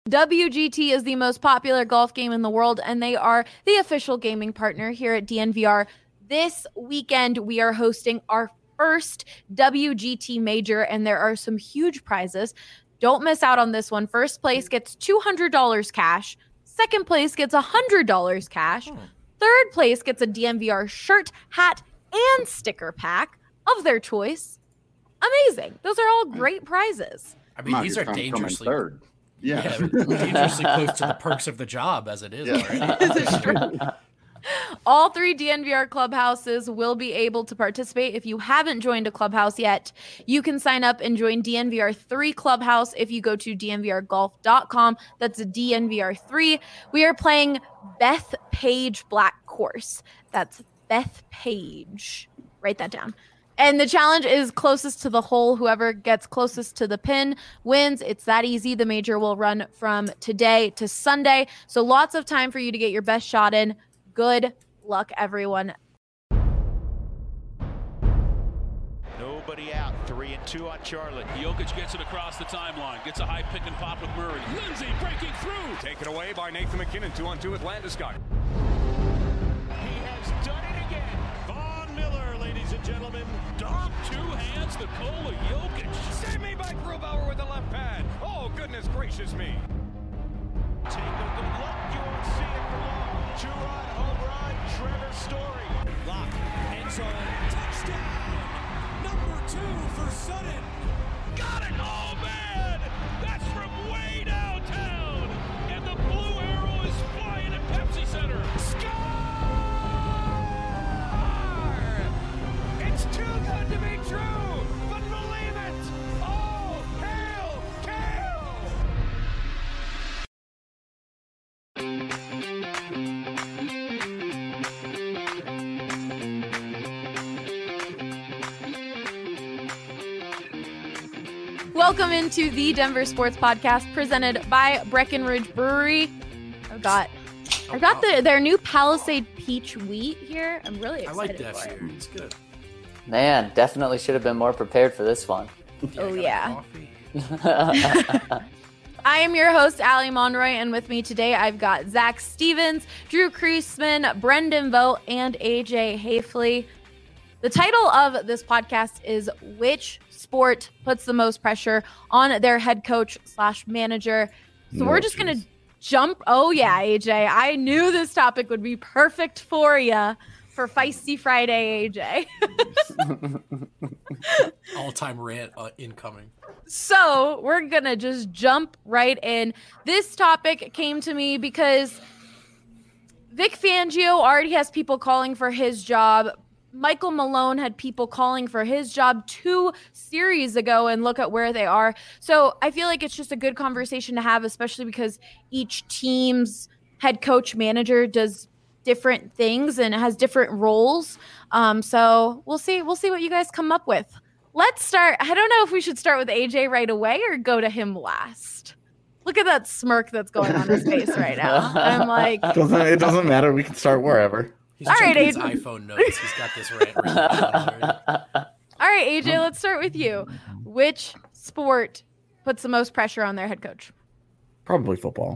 WGT is the most popular golf game in the world, and they are the official gaming partner here at DNVR. This weekend, we are hosting our first WGT major, and there are some huge prizes. Don't miss out on this one. First place gets $200 cash. Second place gets $100 cash. Third place gets a DNVR shirt, hat, and sticker pack of their choice. Amazing. Those are all great prizes. I mean, these are dangerously third. Yeah. Dangerously close to the perks of the job as it is. Yeah. Right? All 3 DNVR clubhouses will be able to participate. If you haven't joined a clubhouse yet, you can sign up and join DNVR 3 Clubhouse if you go to dnvrgolf.com. That's a DNVR 3. We are playing Beth Page Black Course. That's Beth Page. Write that down. And the challenge is closest to the hole. Whoever gets closest to the pin wins. It's that easy. The major will run from today to Sunday. So lots of time for you to get your best shot in. Good luck, everyone. Nobody out. 3 and 2 on Charlotte. Jokic gets it across the timeline. Gets a high pick and pop with Murray. Lindsay breaking through. Taken away by Nathan McKinnon. 2-on-2 with Landeskog. He has done it again. Von Miller, ladies and gentlemen. Dom, 2 hands, Nikola Jokic. Save me by Grubauer with the left pad. Oh, goodness gracious me. Take a good look. You won't see it for long. 2-run home run. Trevor Story. Lock. End zone. Touchdown. Number 2 for Sutton. Got it. Oh, man. That's from way downtown. And the blue arrow is flying at Pepsi Center. Score! It's too good to be true, but believe it. Oh, hail, Kale! Welcome into the Denver Sports Podcast presented by Breckenridge Brewery. I've got their new Palisade Peach Wheat here. I'm really excited. I like that for it. beer. It's good. Man, definitely should have been more prepared for this one. Oh, yeah. I am your host, Allie Monroy, and with me today, I've got Zach Stevens, Drew Kreisman, Brendan Vogt, and AJ Hafley. The title of this podcast is Which Sport Puts the Most Pressure on Their Head Coach / Manager? So we're just going to jump. Oh, yeah, AJ. I knew this topic would be perfect for you for Feisty Friday, AJ. All-time rant incoming. So we're going to just jump right in. This topic came to me because Vic Fangio already has people calling for his job. Michael Malone had people calling for his job 2 series ago, and look at where they are. So I feel like it's just a good conversation to have, especially because each team's head coach manager does different things and has different roles. So we'll see what you guys come up with. Let's start. I don't know if we should start with AJ right away or go to him last. Look at that smirk that's going on his face right now. I'm like, it doesn't matter. We can start wherever. He's all right, his iPhone notes. He's got this rant written down already. All right, AJ, let's start with you. Which sport puts the most pressure on their head coach? Probably football.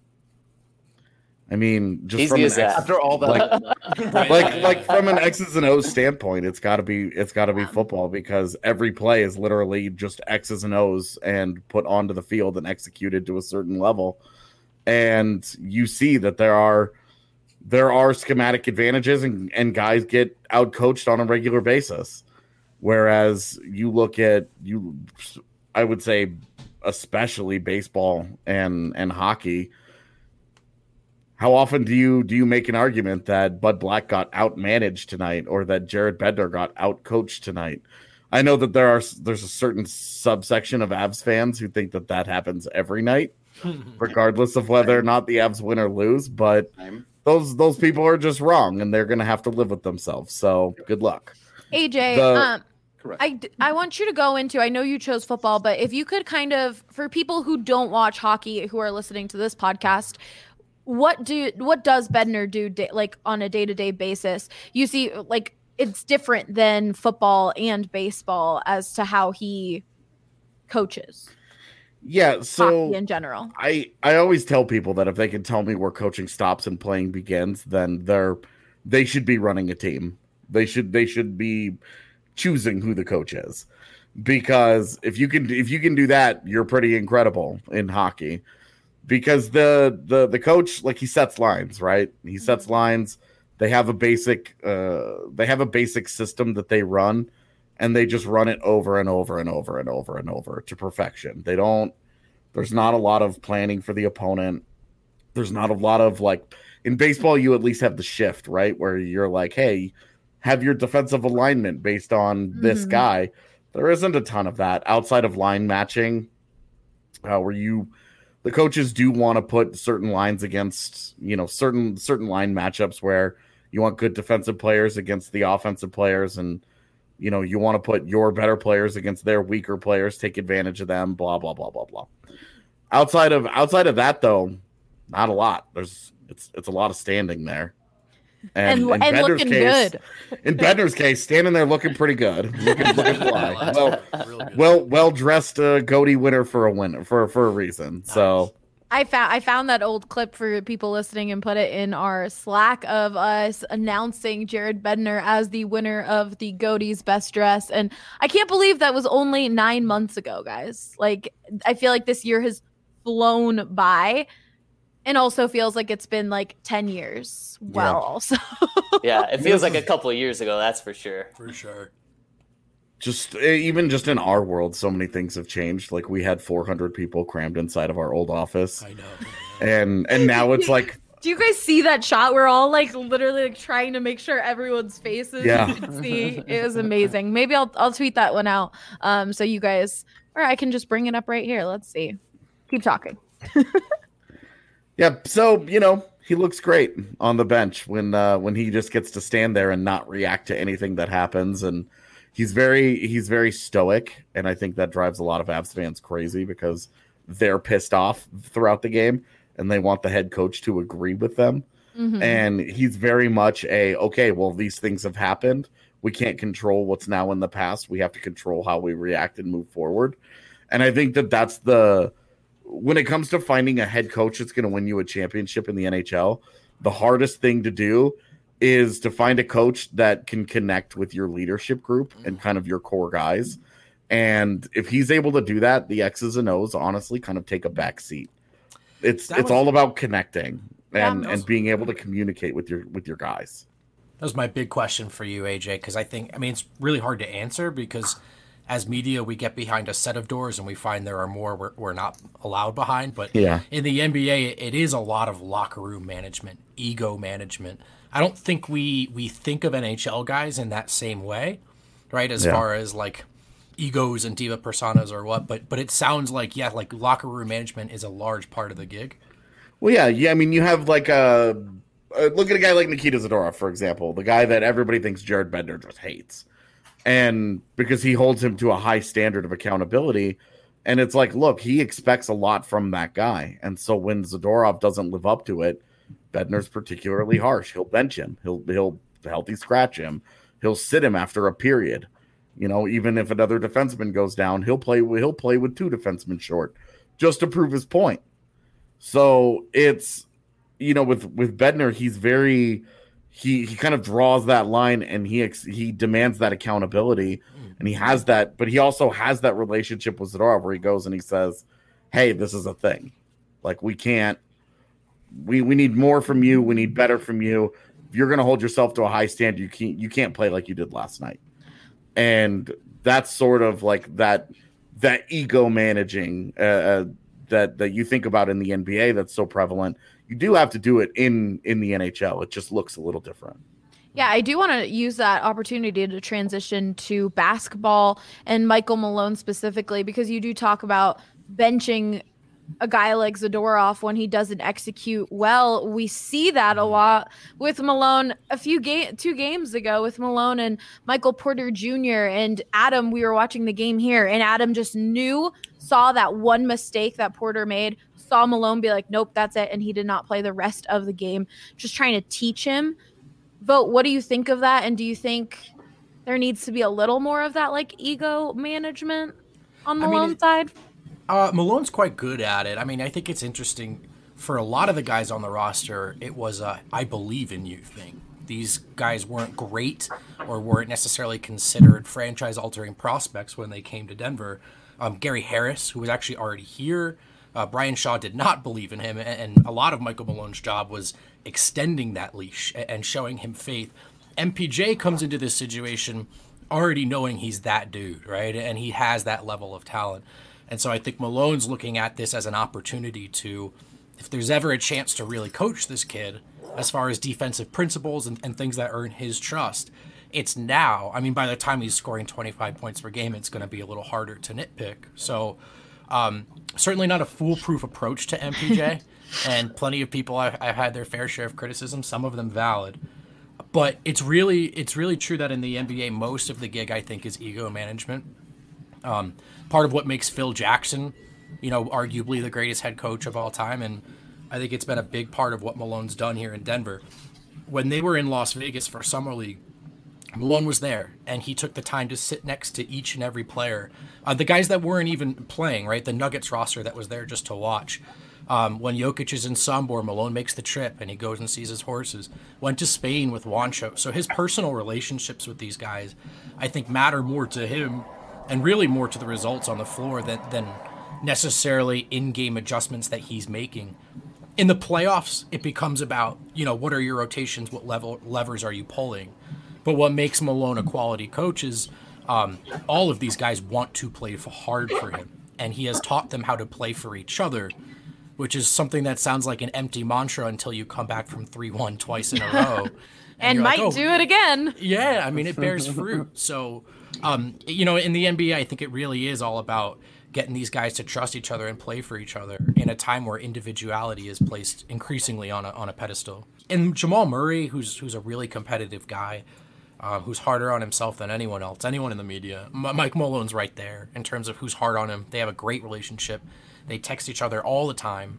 I mean, just Easy from as that. After all that, like from an X's and O's standpoint, it's got to be football, because every play is literally just X's and O's and put onto the field and executed to a certain level. And you see that there are schematic advantages and guys get outcoached on a regular basis. Whereas you look at I would say especially baseball and hockey. How often do you make an argument that Bud Black got outmanaged tonight, or that Jared Bednar got outcoached tonight? I know that there's a certain subsection of Avs fans who think that happens every night, regardless of whether or not the Avs win or lose. But those people are just wrong, and they're going to have to live with themselves. So good luck. AJ, I want you to go into, I know you chose football, but if you could kind of, for people who don't watch hockey who are listening to this podcast, what does Bednar do like on a day-to-day basis? You see, like, it's different than football and baseball as to how he coaches. Yeah, so hockey in general. I always tell people that if they can tell me where coaching stops and playing begins, then they should be running a team. They should be choosing who the coach is. Because if you can do that, you're pretty incredible in hockey. Because the coach, like, he sets lines, right? He sets lines. They have a basic system that they run, and they just run it over and over and over and over and over to perfection. There's not a lot of planning for the opponent. There's not a lot of, like, in baseball, you at least have the shift, right? Where you're like, hey, have your defensive alignment based on this guy. There isn't a ton of that outside of line matching, where the coaches do want to put certain lines against, certain line matchups where you want good defensive players against the offensive players, and you want to put your better players against their weaker players, take advantage of them, blah blah blah blah blah. Outside of that, though, not a lot. It's a lot of standing there. And looking good. In Bednar's case, standing there looking pretty good, looking fly. Well dressed, Goatee winner for a reason. Nice. So I found that old clip for people listening and put it in our Slack of us announcing Jared Bednar as the winner of the Goatee's Best Dress, and I can't believe that was only 9 months ago, guys. Like, I feel like this year has flown by. And also feels like it's been like 10 years. Well, also. Yeah, it feels like a couple of years ago, that's for sure. For sure. Even just in our world, so many things have changed. Like, we had 400 people crammed inside of our old office. I know. And now it's like... Do you guys see that shot? We're all like literally like trying to make sure everyone's faces you can see. It was amazing. Maybe I'll tweet that one out. So you guys, or I can just bring it up right here. Let's see. Keep talking. Yeah, so he looks great on the bench when he just gets to stand there and not react to anything that happens, and he's very stoic, and I think that drives a lot of Avs fans crazy because they're pissed off throughout the game and they want the head coach to agree with them. Mm-hmm. And he's very much okay, well, these things have happened. We can't control what's now in the past. We have to control how we react and move forward. And I think that's when it comes to finding a head coach that's going to win you a championship in the NHL, the hardest thing to do is to find a coach that can connect with your leadership group and kind of your core guys. And if he's able to do that, the X's and O's honestly kind of take a back seat. It's all about connecting and being able to communicate with your guys. That was my big question for you, AJ, because it's really hard to answer because as media, we get behind a set of doors and we find there are more we're not allowed behind. But in the NBA, it is a lot of locker room management, ego management. I don't think we think of NHL guys in that same way, right? As far as like egos and diva personas or what. But it sounds like, like locker room management is a large part of the gig. Well, yeah. I mean, you have like look at a guy like Nikita Zadorov, for example, the guy that everybody thinks Jared Bednar just hates. And because he holds him to a high standard of accountability, and it's like, look, he expects a lot from that guy. And so when Zadorov doesn't live up to it, Bednar's particularly harsh. He'll bench him. He'll healthy scratch him. He'll sit him after a period. Even if another defenseman goes down, he'll play with two defensemen short just to prove his point. So it's, with Bednar, he's very... He kind of draws that line and he demands that accountability, and he has that, but he also has that relationship with Zadorov where he goes and he says, hey, this is a thing. Like, we need more from you. We need better from you. If you're going to hold yourself to a high standard, you can't play like you did last night. And that's sort of like that ego managing that you think about in the NBA that's so prevalent. You do have to do it in the NHL. It just looks a little different. Yeah, I do want to use that opportunity to transition to basketball and Michael Malone specifically, because you do talk about benching a guy like Zadorov when he doesn't execute well. We see that a lot with Malone 2 games ago with Malone and Michael Porter Jr. and Adam. We were watching the game here, and Adam just saw that one mistake that Porter made, saw Malone be like, nope, that's it. And he did not play the rest of the game, just trying to teach him. Vogt, what do you think of that? And do you think there needs to be a little more of that like ego management on Malone's side? Malone's quite good at it. I mean, I think it's interesting for a lot of the guys on the roster. It was a "I believe in you" thing. These guys weren't great or weren't necessarily considered franchise-altering prospects when they came to Denver. Gary Harris, who was actually already here, Brian Shaw did not believe in him, and a lot of Michael Malone's job was extending that leash and showing him faith. MPJ comes into this situation already knowing he's that dude, right? And he has that level of talent. And so I think Malone's looking at this as an opportunity to, if there's ever a chance to really coach this kid as far as defensive principles and things that earn his trust, it's now. I mean, by the time he's scoring 25 points per game, it's going to be a little harder to nitpick. So certainly not a foolproof approach to MPJ. And plenty of people I've had their fair share of criticism, some of them valid. But it's really true that in the NBA, most of the gig, I think, is ego management. Part of what makes Phil Jackson, arguably the greatest head coach of all time, and I think it's been a big part of what Malone's done here in Denver. When they were in Las Vegas for Summer League, Malone was there, and he took the time to sit next to each and every player. The guys that weren't even playing, right? The Nuggets roster that was there just to watch. When Jokic is in Sombor, Malone makes the trip, and he goes and sees his horses. Went to Spain with Juancho. So his personal relationships with these guys, I think, matter more to him and really more to the results on the floor than necessarily in-game adjustments that he's making. In the playoffs, it becomes about, what are your rotations, what levers are you pulling? But what makes Malone a quality coach is all of these guys want to play hard for him, and he has taught them how to play for each other, which is something that sounds like an empty mantra until you come back from 3-1 twice in a row. and might do it again. Yeah, I mean, it bears fruit. So, in the NBA, I think it really is all about getting these guys to trust each other and play for each other in a time where individuality is placed increasingly on a pedestal. And Jamal Murray, who's a really competitive guy, who's harder on himself than anyone else, anyone in the media. Mike Malone's right there in terms of who's hard on him. They have a great relationship. They text each other all the time.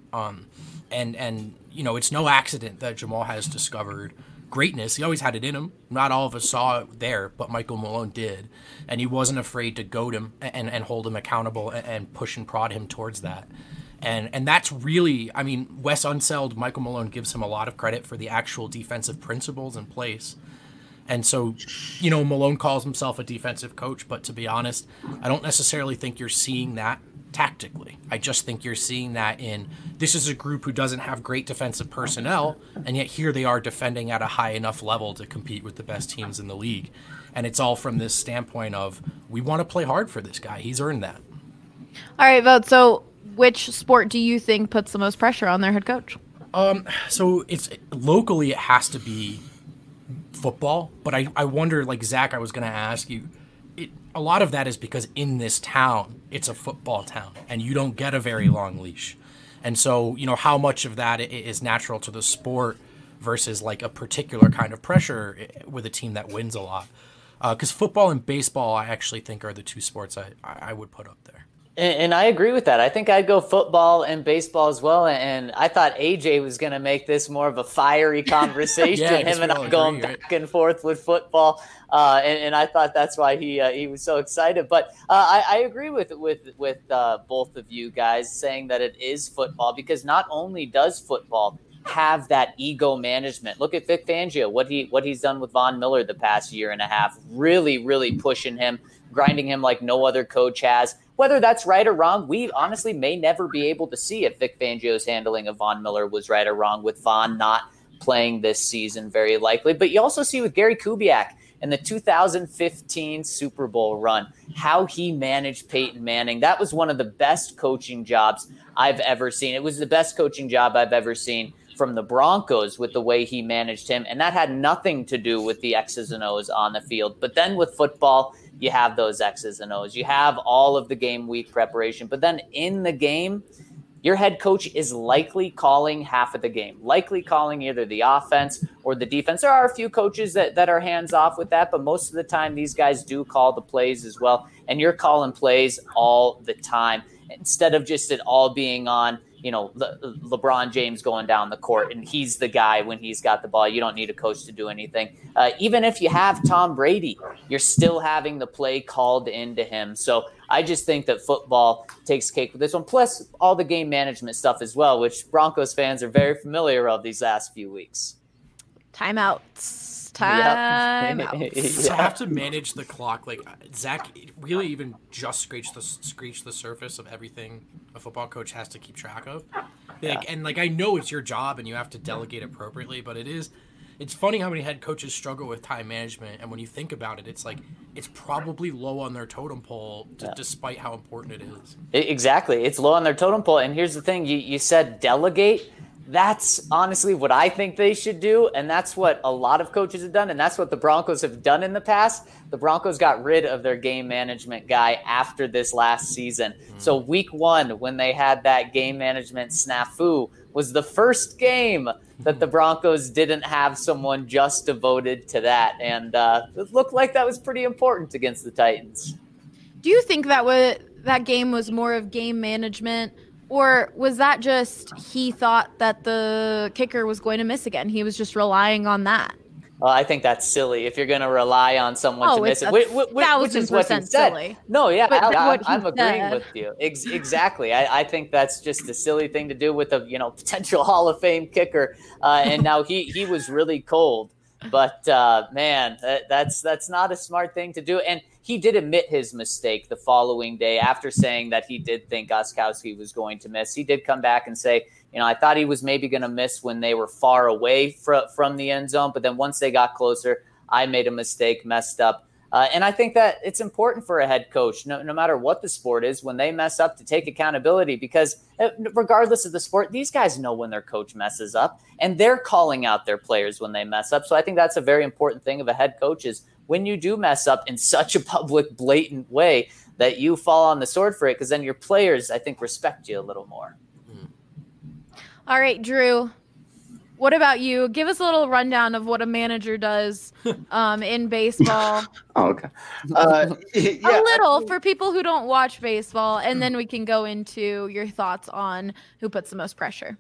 And it's no accident that Jamal has discovered greatness. He always had it in him. Not all of us saw it there, but Michael Malone did. And he wasn't afraid to goad him and hold him accountable and push and prod him towards that. And that's really, Wes Unseld, Michael Malone gives him a lot of credit for the actual defensive principles in place. And so, Malone calls himself a defensive coach, but to be honest, I don't necessarily think you're seeing that tactically. I just think you're seeing that in, this is a group who doesn't have great defensive personnel, and yet here they are defending at a high enough level to compete with the best teams in the league. And it's all from this standpoint of, we want to play hard for this guy. He's earned that. All right, Vogt. So which sport do you think puts the most pressure on their head coach? So it's locally, it has to be football, but I wonder, like Zach, I was going to ask you, a lot of that is because in this town, it's a football town, and you don't get a very long leash. And so, how much of that is natural to the sport versus like a particular kind of pressure with a team that wins a lot? Because football and baseball, I actually think, are the two sports I would put up there. And I agree with that. I think I'd go football and baseball as well. And I thought AJ was going to make this more of a fiery conversation. Him and I going back and forth with football. And I thought that's why he was so excited. But I agree with both of you guys saying that it is football, because not only does football have that ego management. Look at Vic Fangio, what he's done with Von Miller the past year and a half, really, really pushing him, grinding him like no other coach has. Whether that's right or wrong, we honestly may never be able to see if Vic Fangio's handling of Von Miller was right or wrong, with Von not playing this season very likely. But you also see with Gary Kubiak in the 2015 Super Bowl run, how he managed Peyton Manning. That was one of the best coaching jobs I've ever seen. It was the best coaching job I've ever seen from the Broncos with the way he managed him. And that had nothing to do with the X's and O's on the field. But then with football, you have those X's and O's. You have all of the game week preparation. But then in the game, your head coach is likely calling half of the game, likely calling either the offense or the defense. There are a few coaches that are hands off with that, but most of the time these guys do call the plays as well. And you're calling plays all the time instead of just it all being on, LeBron James going down the court and he's the guy when he's got the ball. You don't need a coach to do anything. Even if you have Tom Brady, you're still having the play called into him. So I just think that football takes cake with this one, plus all the game management stuff as well, which Broncos fans are very familiar of these last few weeks. Timeouts. To have to manage the clock, like Zach really even just scratched the surface of everything a football coach has to keep track of. And I know it's your job and you have to delegate appropriately, but it's funny how many head coaches struggle with time management. And when you think about it, it's probably low on their totem pole, despite how important it is. Exactly. It's low on their totem pole. And here's the thing, you said delegate. That's honestly what I think they should do, and that's what a lot of coaches have done, and that's what the Broncos have done in the past. The Broncos got rid of their game management guy after this last season. So week 1, when they had that game management snafu, was the first game that the Broncos didn't have someone just devoted to that, and it looked like that was pretty important against the Titans. Do you think that game was more of game management? Or was that just he thought that the kicker was going to miss again? He was just relying on that. Well, I think that's silly if you're going to rely on someone to miss it, which is what he said. Silly. No, yeah, I'm agreeing with you. Exactly. I think that's just a silly thing to do with a potential Hall of Fame kicker. And now he was really cold. But man, that's not a smart thing to do. And he did admit his mistake the following day after saying that he did think Gostkowski was going to miss. He did come back and say, I thought he was maybe going to miss when they were far away from the end zone. But then once they got closer, I made a mistake, messed up. And I think that it's important for a head coach, no matter what the sport is, when they mess up, to take accountability, because regardless of the sport, these guys know when their coach messes up and they're calling out their players when they mess up. So I think that's a very important thing of a head coach, is when you do mess up in such a public, blatant way, that you fall on the sword for it, because then your players, I think, respect you a little more. All right, Drew. What about you? Give us a little rundown of what a manager does in baseball. Oh, okay. A little for people who don't watch baseball, and then we can go into your thoughts on who puts the most pressure.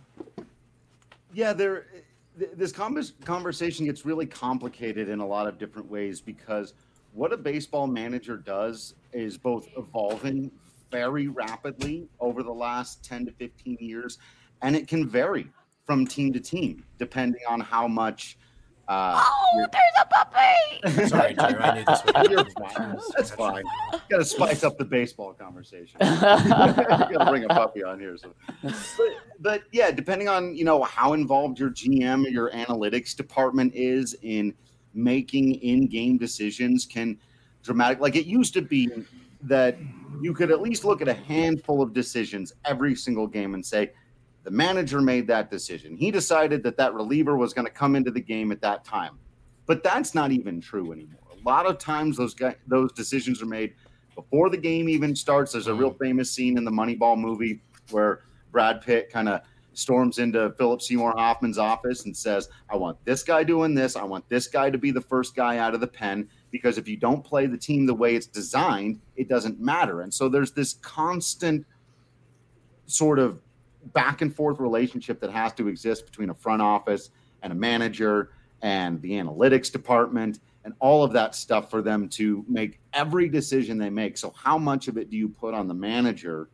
Yeah, this conversation gets really complicated in a lot of different ways, because what a baseball manager does is both evolving very rapidly over the last 10 to 15 years, and it can vary from team to team, depending on how much. There's a puppy! Sorry, Drew, I knew this was. That's fine. Got to spice up the baseball conversation. Got to bring a puppy on here. So. But yeah, depending on how involved your GM or your analytics department is in making in-game decisions, can dramatic. Like it used to be that you could at least look at a handful of decisions every single game and say, the manager made that decision. He decided that reliever was going to come into the game at that time. But that's not even true anymore. A lot of times those decisions are made before the game even starts. There's a real famous scene in the Moneyball movie where Brad Pitt kind of storms into Philip Seymour Hoffman's office and says, I want this guy doing this. I want this guy to be the first guy out of the pen, because if you don't play the team the way it's designed, it doesn't matter. And so there's this constant sort of back and forth relationship that has to exist between a front office and a manager and the analytics department and all of that stuff for them to make every decision they make. So how much of it do you put on the manager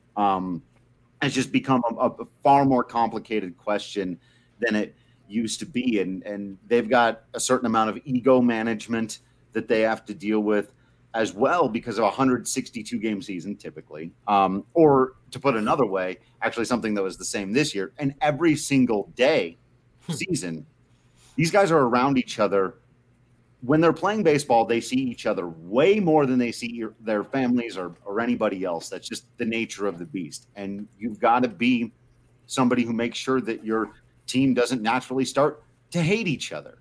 has just become a far more complicated question than it used to be. And they've got a certain amount of ego management that they have to deal with as well, because of a 162 game season typically, or to put another way, actually something that was the same this year, and every single day season, these guys are around each other. When they're playing baseball, they see each other way more than they see their families or anybody else. That's just the nature of the beast. And you've got to be somebody who makes sure that your team doesn't naturally start to hate each other.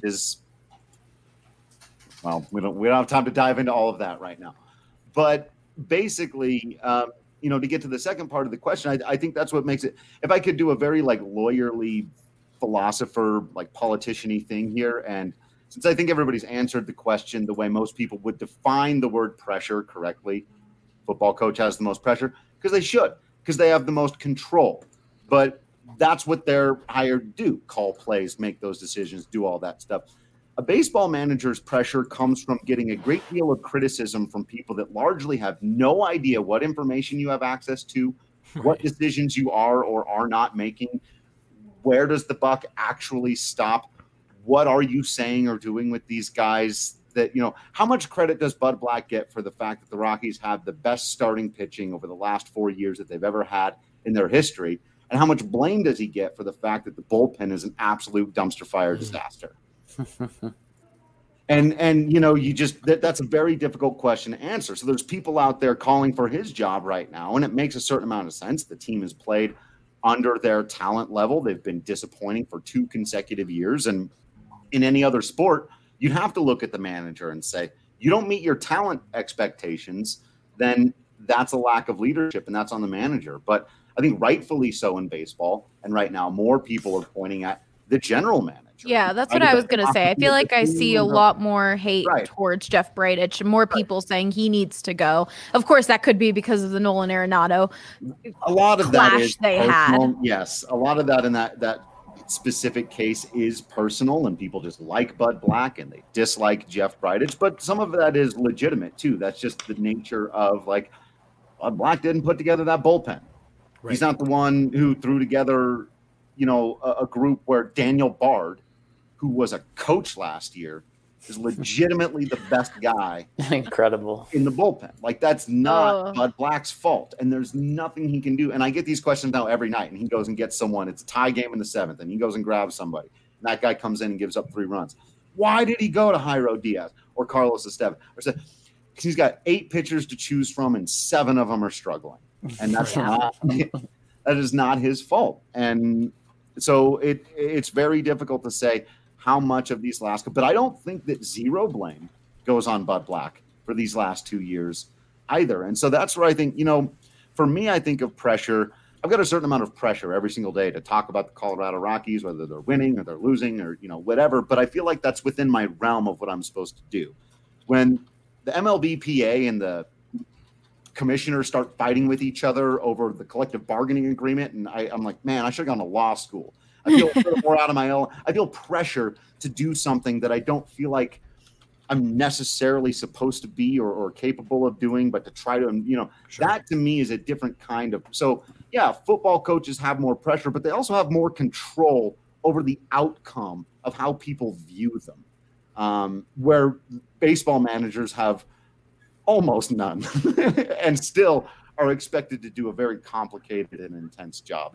Well, we don't have time to dive into all of that right now. But basically, to get to the second part of the question, I think that's what makes it. If I could do a very lawyerly, philosopher, politician-y thing here, and since I think everybody's answered the question the way most people would define the word pressure correctly, football coach has the most pressure, because they should. because they have the most control. But that's what they're hired to do: call plays, make those decisions, do all that stuff. A baseball manager's pressure comes from getting a great deal of criticism from people that largely have no idea what information you have access to, what decisions you are or are not making. Where does the buck actually stop? What are you saying or doing with these guys? That, how much credit does Bud Black get for the fact that the Rockies have the best starting pitching over the last 4 years that they've ever had in their history? And how much blame does he get for the fact that the bullpen is an absolute dumpster fire disaster? And that's a very difficult question to answer. So there's people out there calling for his job right now, and it makes a certain amount of sense. The team has played under their talent level. They've been disappointing for 2 consecutive years. And in any other sport, you'd have to look at the manager and say, you don't meet your talent expectations, then that's a lack of leadership, and that's on the manager. But I think rightfully so in baseball, and right now more people are pointing at the general manager. Yeah, that's what I was going to say. I feel like I see a lot more hate towards Jeff Bridich, and more people saying he needs to go. Of course, that could be because of the Nolan Arenado a lot of clash that is they personal. had. Yes, a lot of that in that specific case is personal, and people just like Bud Black and they dislike Jeff Bridich. But some of that is legitimate too. That's just the nature of, like, Bud Black didn't put together that bullpen. Right. He's not the one who threw together, a group where Daniel Bard, who was a coach last year, is legitimately the best guy. Incredible. In the bullpen. Like, that's not Bud Black's fault. And there's nothing he can do. And I get these questions now every night, and he goes and gets someone. It's a tie game in the 7th, and he goes and grabs somebody. And that guy comes in and gives up 3 runs. Why did he go to Jairo Diaz or Carlos Estevan? Because he's got 8 pitchers to choose from, and 7 of them are struggling. And that's that is not his fault. And so it's very difficult to say how much of these last, but I don't think that zero blame goes on Bud Black for these last 2 years either. And so that's where I think, for me, I think of pressure. I've got a certain amount of pressure every single day to talk about the Colorado Rockies, whether they're winning or they're losing or, whatever. But I feel like that's within my realm of what I'm supposed to do. When the MLBPA and the commissioners start fighting with each other over the collective bargaining agreement, and I'm like, man, I should have gone to law school. I feel more out of my own. I feel pressure to do something that I don't feel like I'm necessarily supposed to be or capable of doing, but to try to, that to me is a different kind of. So yeah, football coaches have more pressure, but they also have more control over the outcome of how people view them, where baseball managers have almost none and still are expected to do a very complicated and intense job.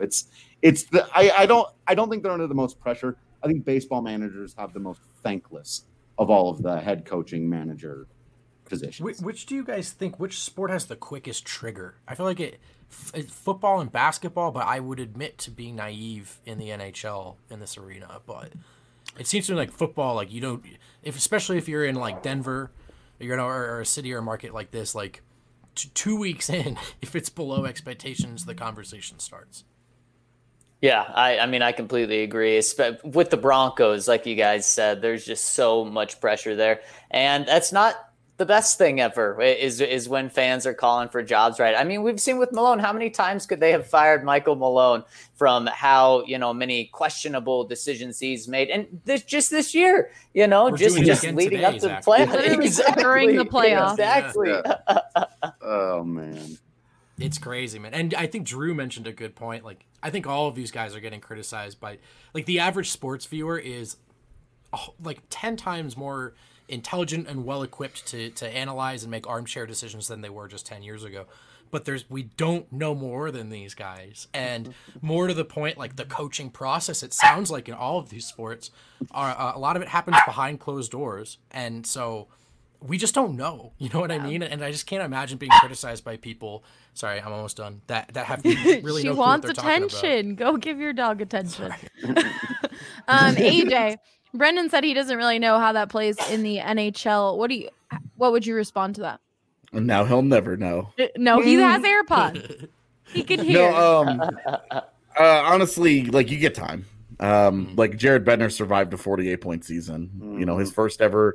I don't think they're under the most pressure. I think baseball managers have the most thankless of all of the head coaching manager positions. Which do you guys think, which sport has the quickest trigger? I feel like it's football and basketball, but I would admit to being naive in the NHL in this arena. But it seems to me like football, like especially if you're in like Denver, or a city or a market like this, like 2 weeks in, if it's below expectations, the conversation starts. Yeah, I mean, I completely agree. With the Broncos, like you guys said, there's just so much pressure there. And that's not the best thing ever is when fans are calling for jobs, right? I mean, we've seen with Malone, how many times could they have fired Michael Malone from how, many questionable decisions he's made? And this year, just leading up to the playoffs. Exactly. During the playoffs. Exactly. Yeah. Oh, man. It's crazy, man. And I think Drew mentioned a good point. Like, I think all of these guys are getting criticized by, like, the average sports viewer is like 10 times more intelligent and well-equipped to analyze and make armchair decisions than they were just 10 years ago. But we don't know more than these guys. And more to the point, like the coaching process, it sounds like in all of these sports, a lot of it happens behind closed doors. And so we just don't know, you know what I mean? And I just can't imagine being criticized by people. Sorry, I'm almost done. That have really no clue what they're talking about. She wants attention. Go give your dog attention. AJ, Brendan said he doesn't really know how that plays in the NHL. What would you respond to that? Now he'll never know. No, he has AirPods. He can hear. No, honestly, like, you get time. Like, Jared Bednar survived a 48-point season. His first ever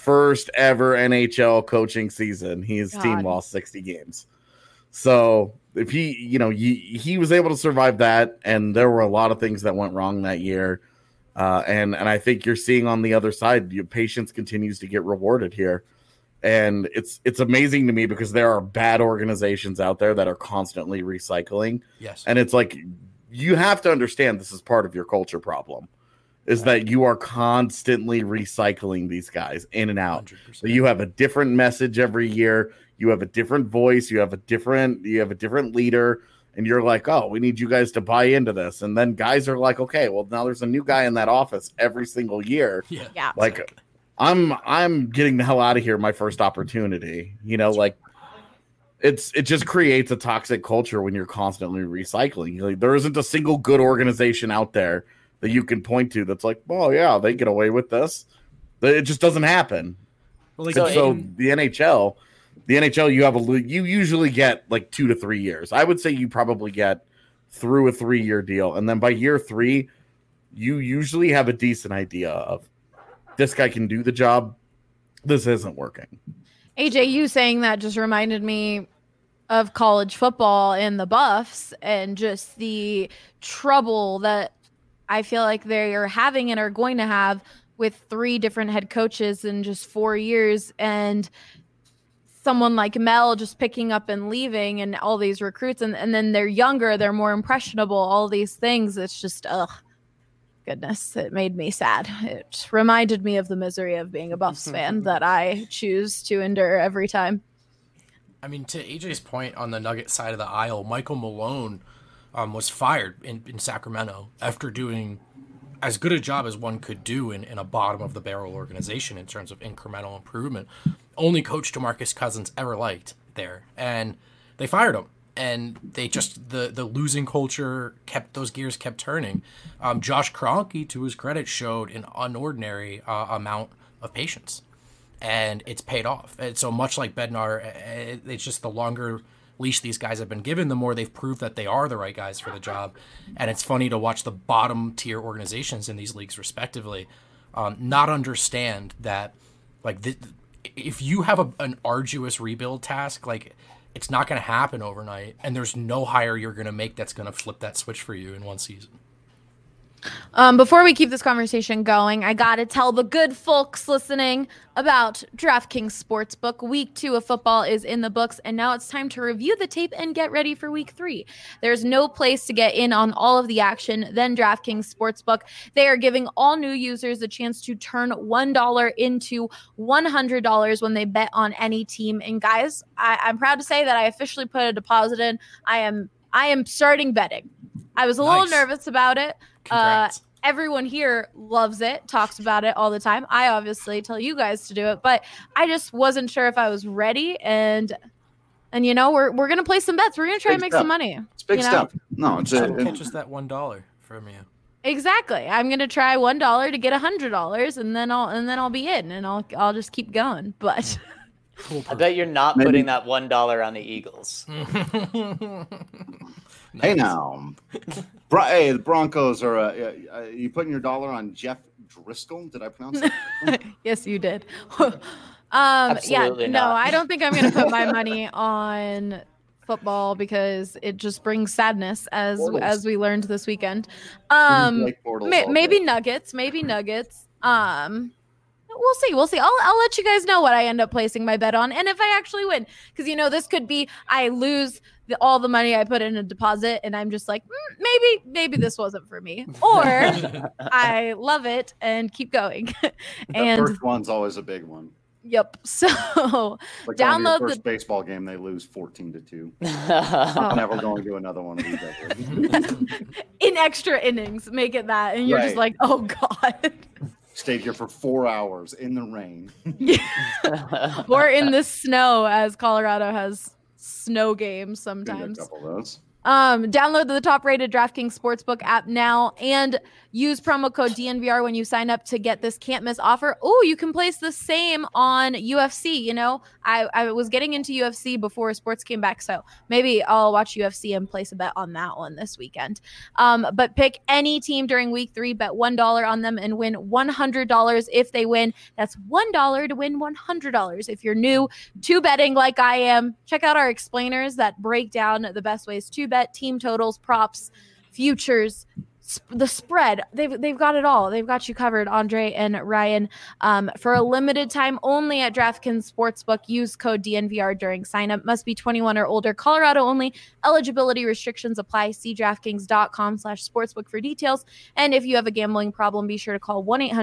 NHL coaching season. His team lost 60 games. So if he was able to survive that, and there were a lot of things that went wrong that year. And I think you're seeing on the other side, your patience continues to get rewarded here. And it's amazing to me because there are bad organizations out there that are constantly recycling. Yes. And it's like, you have to understand this is part of your culture problem, is that you are constantly recycling these guys in and out. 100%. So you have a different message every year. You have a different voice. You have a different leader. And you're like, oh, we need you guys to buy into this. And then guys are like, okay, well, now there's a new guy in that office every single year. Yeah. Like, exactly. I'm getting the hell out of here my first opportunity. Like, it just creates a toxic culture when you're constantly recycling. Like, there isn't a single good organization out there that you can point to that's like, oh, yeah, they get away with this. It just doesn't happen. Well, so the NHL, you usually get like 2 to 3 years. I would say you probably get through a 3-year deal. And then by year 3, you usually have a decent idea of this guy can do the job. This isn't working. AJ, you saying that just reminded me of college football and the Buffs and just the trouble that I feel like they are having and are going to have with 3 different head coaches in just 4 years, and someone like Mel just picking up and leaving, and all these recruits, and then they're younger, they're more impressionable, all these things. It's just, goodness, it made me sad. It reminded me of the misery of being a Buffs fan that I choose to endure every time. I mean, to AJ's point on the Nugget side of the aisle, Michael Malone was fired in Sacramento after doing as good a job as one could do in a bottom-of-the-barrel organization in terms of incremental improvement. Only coach DeMarcus Cousins ever liked there. And they fired him. And they just, the losing culture those gears kept turning. Josh Kroenke, to his credit, showed an unordinary amount of patience. And it's paid off. And so much like Bednar, it's just the longer leash these guys have been given, the more they've proved that they are the right guys for the job. And it's funny to watch the bottom tier organizations in these leagues respectively not understand that, like, if you have an arduous rebuild task, like, it's not going to happen overnight, and there's no hire you're going to make that's going to flip that switch for you in one season. Before we keep this conversation going, I got to tell the good folks listening about DraftKings Sportsbook. Week 2 of football is in the books, and now it's time to review the tape and get ready for Week 3. There's no place to get in on all of the action than DraftKings Sportsbook. They are giving all new users a chance to turn $1 into $100 when they bet on any team. And guys, I'm proud to say that I officially put a deposit in. I am starting betting. I was a little nervous about it. Everyone here loves it, talks about it all the time. I obviously tell you guys to do it, but I just wasn't sure if I was ready. And you know, we're gonna play some bets. We're gonna try and make some money. It's big stuff. No, it's just that $1 from you. Exactly. I'm gonna try $1 to get $100, and then I'll be in, and I'll just keep going. But I bet you're not putting that $1 on the Eagles. Hey now, hey, the Broncos are. You putting your dollar on Jeff Driscoll? Did I pronounce that? Yes, you did. Absolutely yeah, not. no, I don't think I'm going to put my money on football because it just brings sadness, as we learned this weekend. Maybe Nuggets. We'll see. I'll let you guys know what I end up placing my bet on, and if I actually win, because this could be I lose all the money I put in a deposit, and I'm just like, maybe this wasn't for me, or I love it and keep going. And the first one's always a big one. Yep. So like download the first baseball game, they lose 14-2. I'm never going to do another one of these ever. In extra innings, make it that, and you're just like, oh god. Stayed here for 4 hours in the rain. Or in the snow, as Colorado has snow games sometimes. A couple of those. Download the top-rated DraftKings Sportsbook app now and use promo code DNVR when you sign up to get this can't-miss offer. Oh, you can place the same on UFC. You know, I was getting into UFC before sports came back, so maybe I'll watch UFC and place a bet on that one this weekend. But pick any team during week 3, bet $1 on them, and win $100 if they win. That's $1 to win $100. If you're new to betting like I am, check out our explainers that break down the best ways to bet, team totals, props, futures, the spread. They've got it all. They've got you covered, Andre and Ryan. For a limited time only at DraftKings Sportsbook, use code DNVR during signup. Must be 21 or older. Colorado only. Eligibility restrictions apply. See DraftKings.com/sportsbook for details. And if you have a gambling problem, be sure to call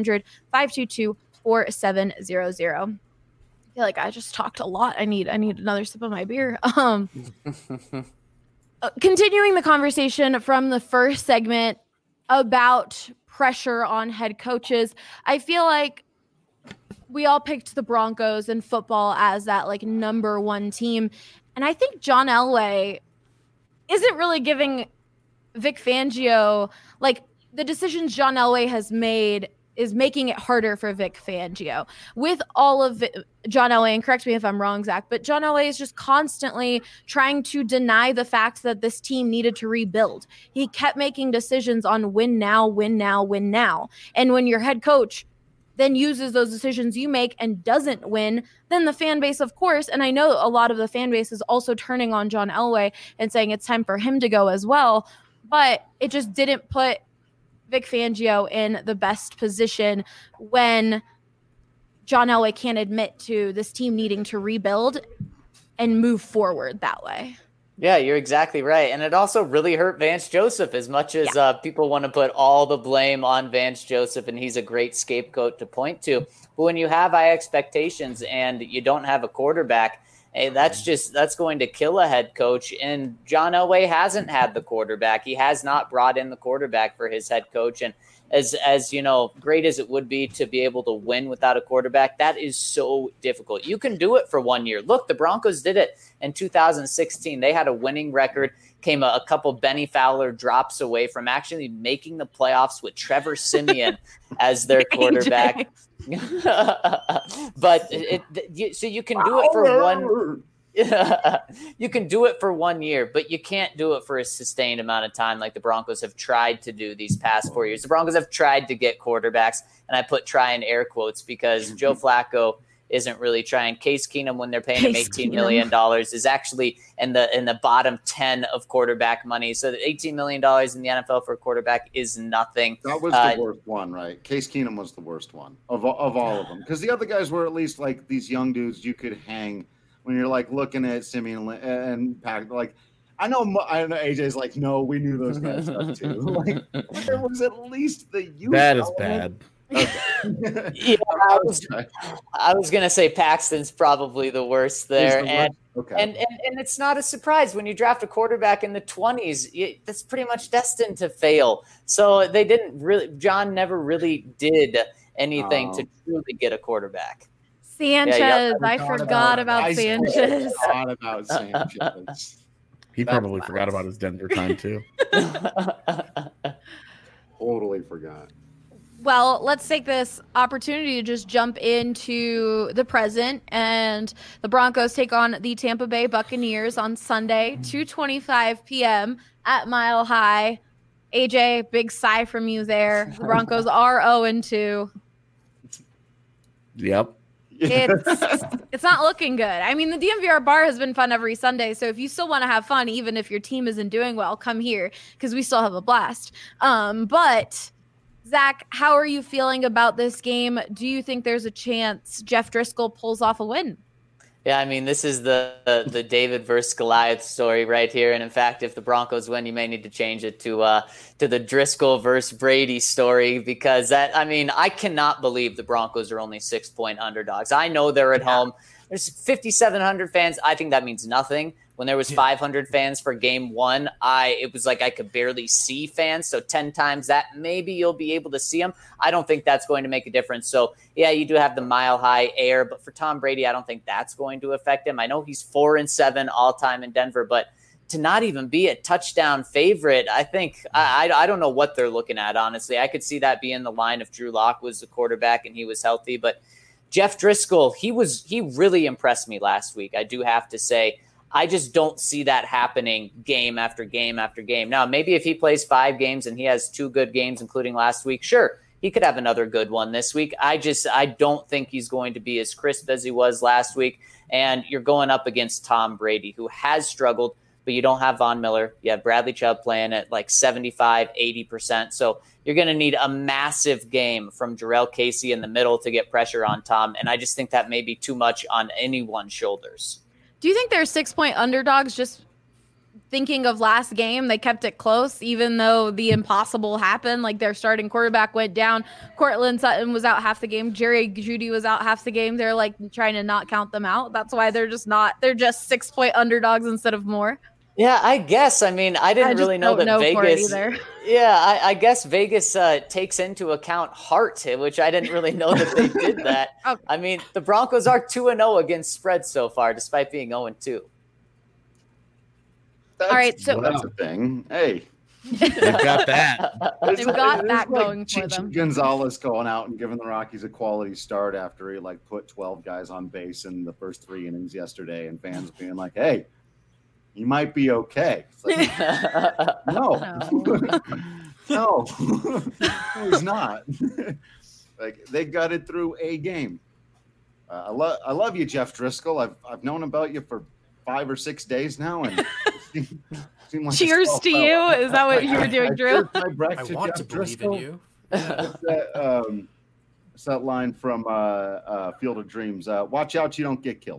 1-800-522-4700. I feel like I just talked a lot. I need another sip of my beer. Continuing the conversation from the first segment about pressure on head coaches, I feel like we all picked the Broncos in football as that like number one team. And I think John Elway isn't really giving Vic Fangio, like the decisions John Elway has made is making it harder for Vic Fangio. With all of John Elway, and correct me if I'm wrong, Zach, but John Elway is just constantly trying to deny the fact that this team needed to rebuild. He kept making decisions on win now, win now, win now. And when your head coach then uses those decisions you make and doesn't win, then the fan base, of course, and I know a lot of the fan base is also turning on John Elway and saying it's time for him to go as well, but it just didn't put Vic Fangio in the best position when John Elway can't admit to this team needing to rebuild and move forward that way. Yeah, you're exactly right. And it also really hurt Vance Joseph as much as people want to put all the blame on Vance Joseph, and he's a great scapegoat to point to. But when you have high expectations and you don't have a quarterback, hey, that's going to kill a head coach. And John Elway hasn't had the quarterback. He has not brought in the quarterback for his head coach. And as you know, great as it would be to be able to win without a quarterback, that is so difficult. You can do it for 1 year. Look, the Broncos did it in 2016. They had a winning record, came a couple Benny Fowler drops away from actually making the playoffs with Trevor Siemian as their quarterback. But so you can do it for one. You can do it for 1 year, but you can't do it for a sustained amount of time like the Broncos have tried to do these past 4 years. The Broncos have tried to get quarterbacks, and I put try in air quotes because Joe Flacco isn't really trying. Case Keenum, when they're paying him $18 million, is actually in the bottom 10 of quarterback money. So the $18 million in the NFL for a quarterback is nothing. That was the worst one, right? Case Keenum was the worst one of all of them, because the other guys were at least like these young dudes you could hang. When you're like looking at Simeon and Pack, like I know AJ's like, no, we knew those guys stuff too. Like there was at least the youth. That is bad. Okay. Yeah, I was gonna say Paxton's probably the worst there, and it's not a surprise when you draft a quarterback in the 20s. That's pretty much destined to fail. So they didn't really. John never really did anything to truly get a quarterback. Sanchez. I forgot about Sanchez. He probably forgot about his Denver time too. Totally forgot. Well, let's take this opportunity to just jump into the present, and the Broncos take on the Tampa Bay Buccaneers on Sunday, 2:25 p.m. at Mile High. AJ, big sigh from you there. The Broncos are 0-2. Yep. It's not looking good. I mean, the DNVR bar has been fun every Sunday, so if you still want to have fun, even if your team isn't doing well, come here because we still have a blast. But Zach, how are you feeling about this game? Do you think there's a chance Jeff Driscoll pulls off a win? Yeah, I mean, this is the David versus Goliath story right here. And in fact, if the Broncos win, you may need to change it to the Driscoll versus Brady story, because I cannot believe the Broncos are only 6-point underdogs. I know they're at home. There's 5,700 fans. I think that means nothing. When there was 500 fans for game one, it was like I could barely see fans. So 10 times that, maybe you'll be able to see them. I don't think that's going to make a difference. So, yeah, you do have the Mile High air. But for Tom Brady, I don't think that's going to affect him. I know he's 4-7 all-time in Denver. But to not even be a touchdown favorite, I think I don't know what they're looking at, honestly. I could see that being the line if Drew Lock was the quarterback and he was healthy. But Jeff Driscoll, he really impressed me last week, I do have to say. I just don't see that happening game after game after game. Now, maybe if he plays 5 games and he has 2 good games, including last week, sure, he could have another good one this week. I don't think he's going to be as crisp as he was last week. And you're going up against Tom Brady, who has struggled, but you don't have Von Miller. You have Bradley Chubb playing at like 75, 80%. So you're going to need a massive game from Jurrell Casey in the middle to get pressure on Tom. And I just think that may be too much on anyone's shoulders. Do you think they're 6-point underdogs just thinking of last game? They kept it close, even though the impossible happened. Like their starting quarterback went down. Cortland Sutton was out half the game. Jerry Jeudy was out half the game. They're like trying to not count them out. That's why they're just 6-point underdogs instead of more. Yeah, I guess. I mean, I didn't really know that Vegas. Yeah, I guess Vegas takes into account heart, which I didn't really know that they did that. Oh. I mean, the Broncos are 2-0 against spreads so far, despite being 0-2. All right, so that's a thing. Hey, they've got that. They've got that like going for them. Gonzalez going out and giving the Rockies a quality start after he put 12 guys on base in the first 3 innings yesterday, and fans being like, "Hey, you might be okay." It's like, no, he's not. Like they got it through a game. I love you, Jeff Driscoll. I've known about you for 5 or 6 days now, and seemed like cheers to you. Is that what you were doing, Drew? I want to believe in you. It's that line from Field of Dreams. Watch out, you don't get killed.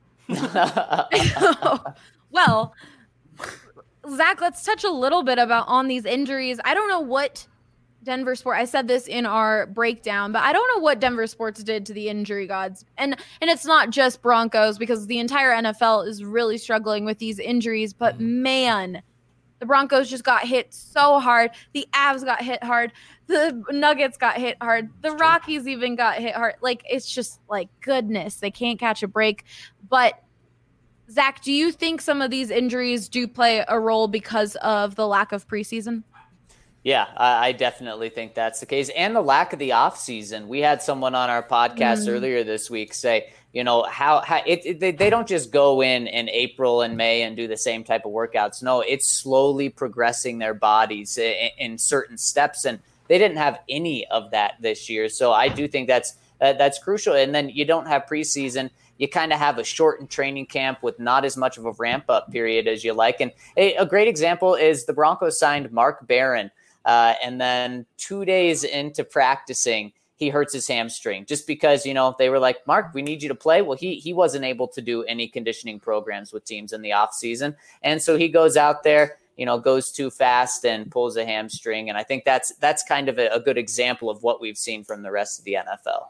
Well, Zach, let's touch a little bit on these injuries. I don't know what Denver Sports, I said this in our breakdown, but I don't know what Denver Sports did to the injury gods. And it's not just Broncos, because the entire NFL is really struggling with these injuries. But man, the Broncos just got hit so hard. The Avs got hit hard. The Nuggets got hit hard. The Rockies even got hit hard. Like, it's just like, goodness, they can't catch a break. But Zach, do you think some of these injuries do play a role because of the lack of preseason? Yeah, I definitely think that's the case. And the lack of the offseason. We had someone on our podcast earlier this week say, how they don't just go in April and May and do the same type of workouts. No, it's slowly progressing their bodies in certain steps. And they didn't have any of that this year. So I do think that's crucial. And then you don't have preseason. You kind of have a shortened training camp with not as much of a ramp-up period as you like. And a great example is the Broncos signed Mark Barron, and then 2 days into practicing, he hurts his hamstring just because, they were like, Mark, we need you to play. Well, he wasn't able to do any conditioning programs with teams in the offseason. And so he goes out there, goes too fast and pulls a hamstring. And I think that's kind of a good example of what we've seen from the rest of the NFL.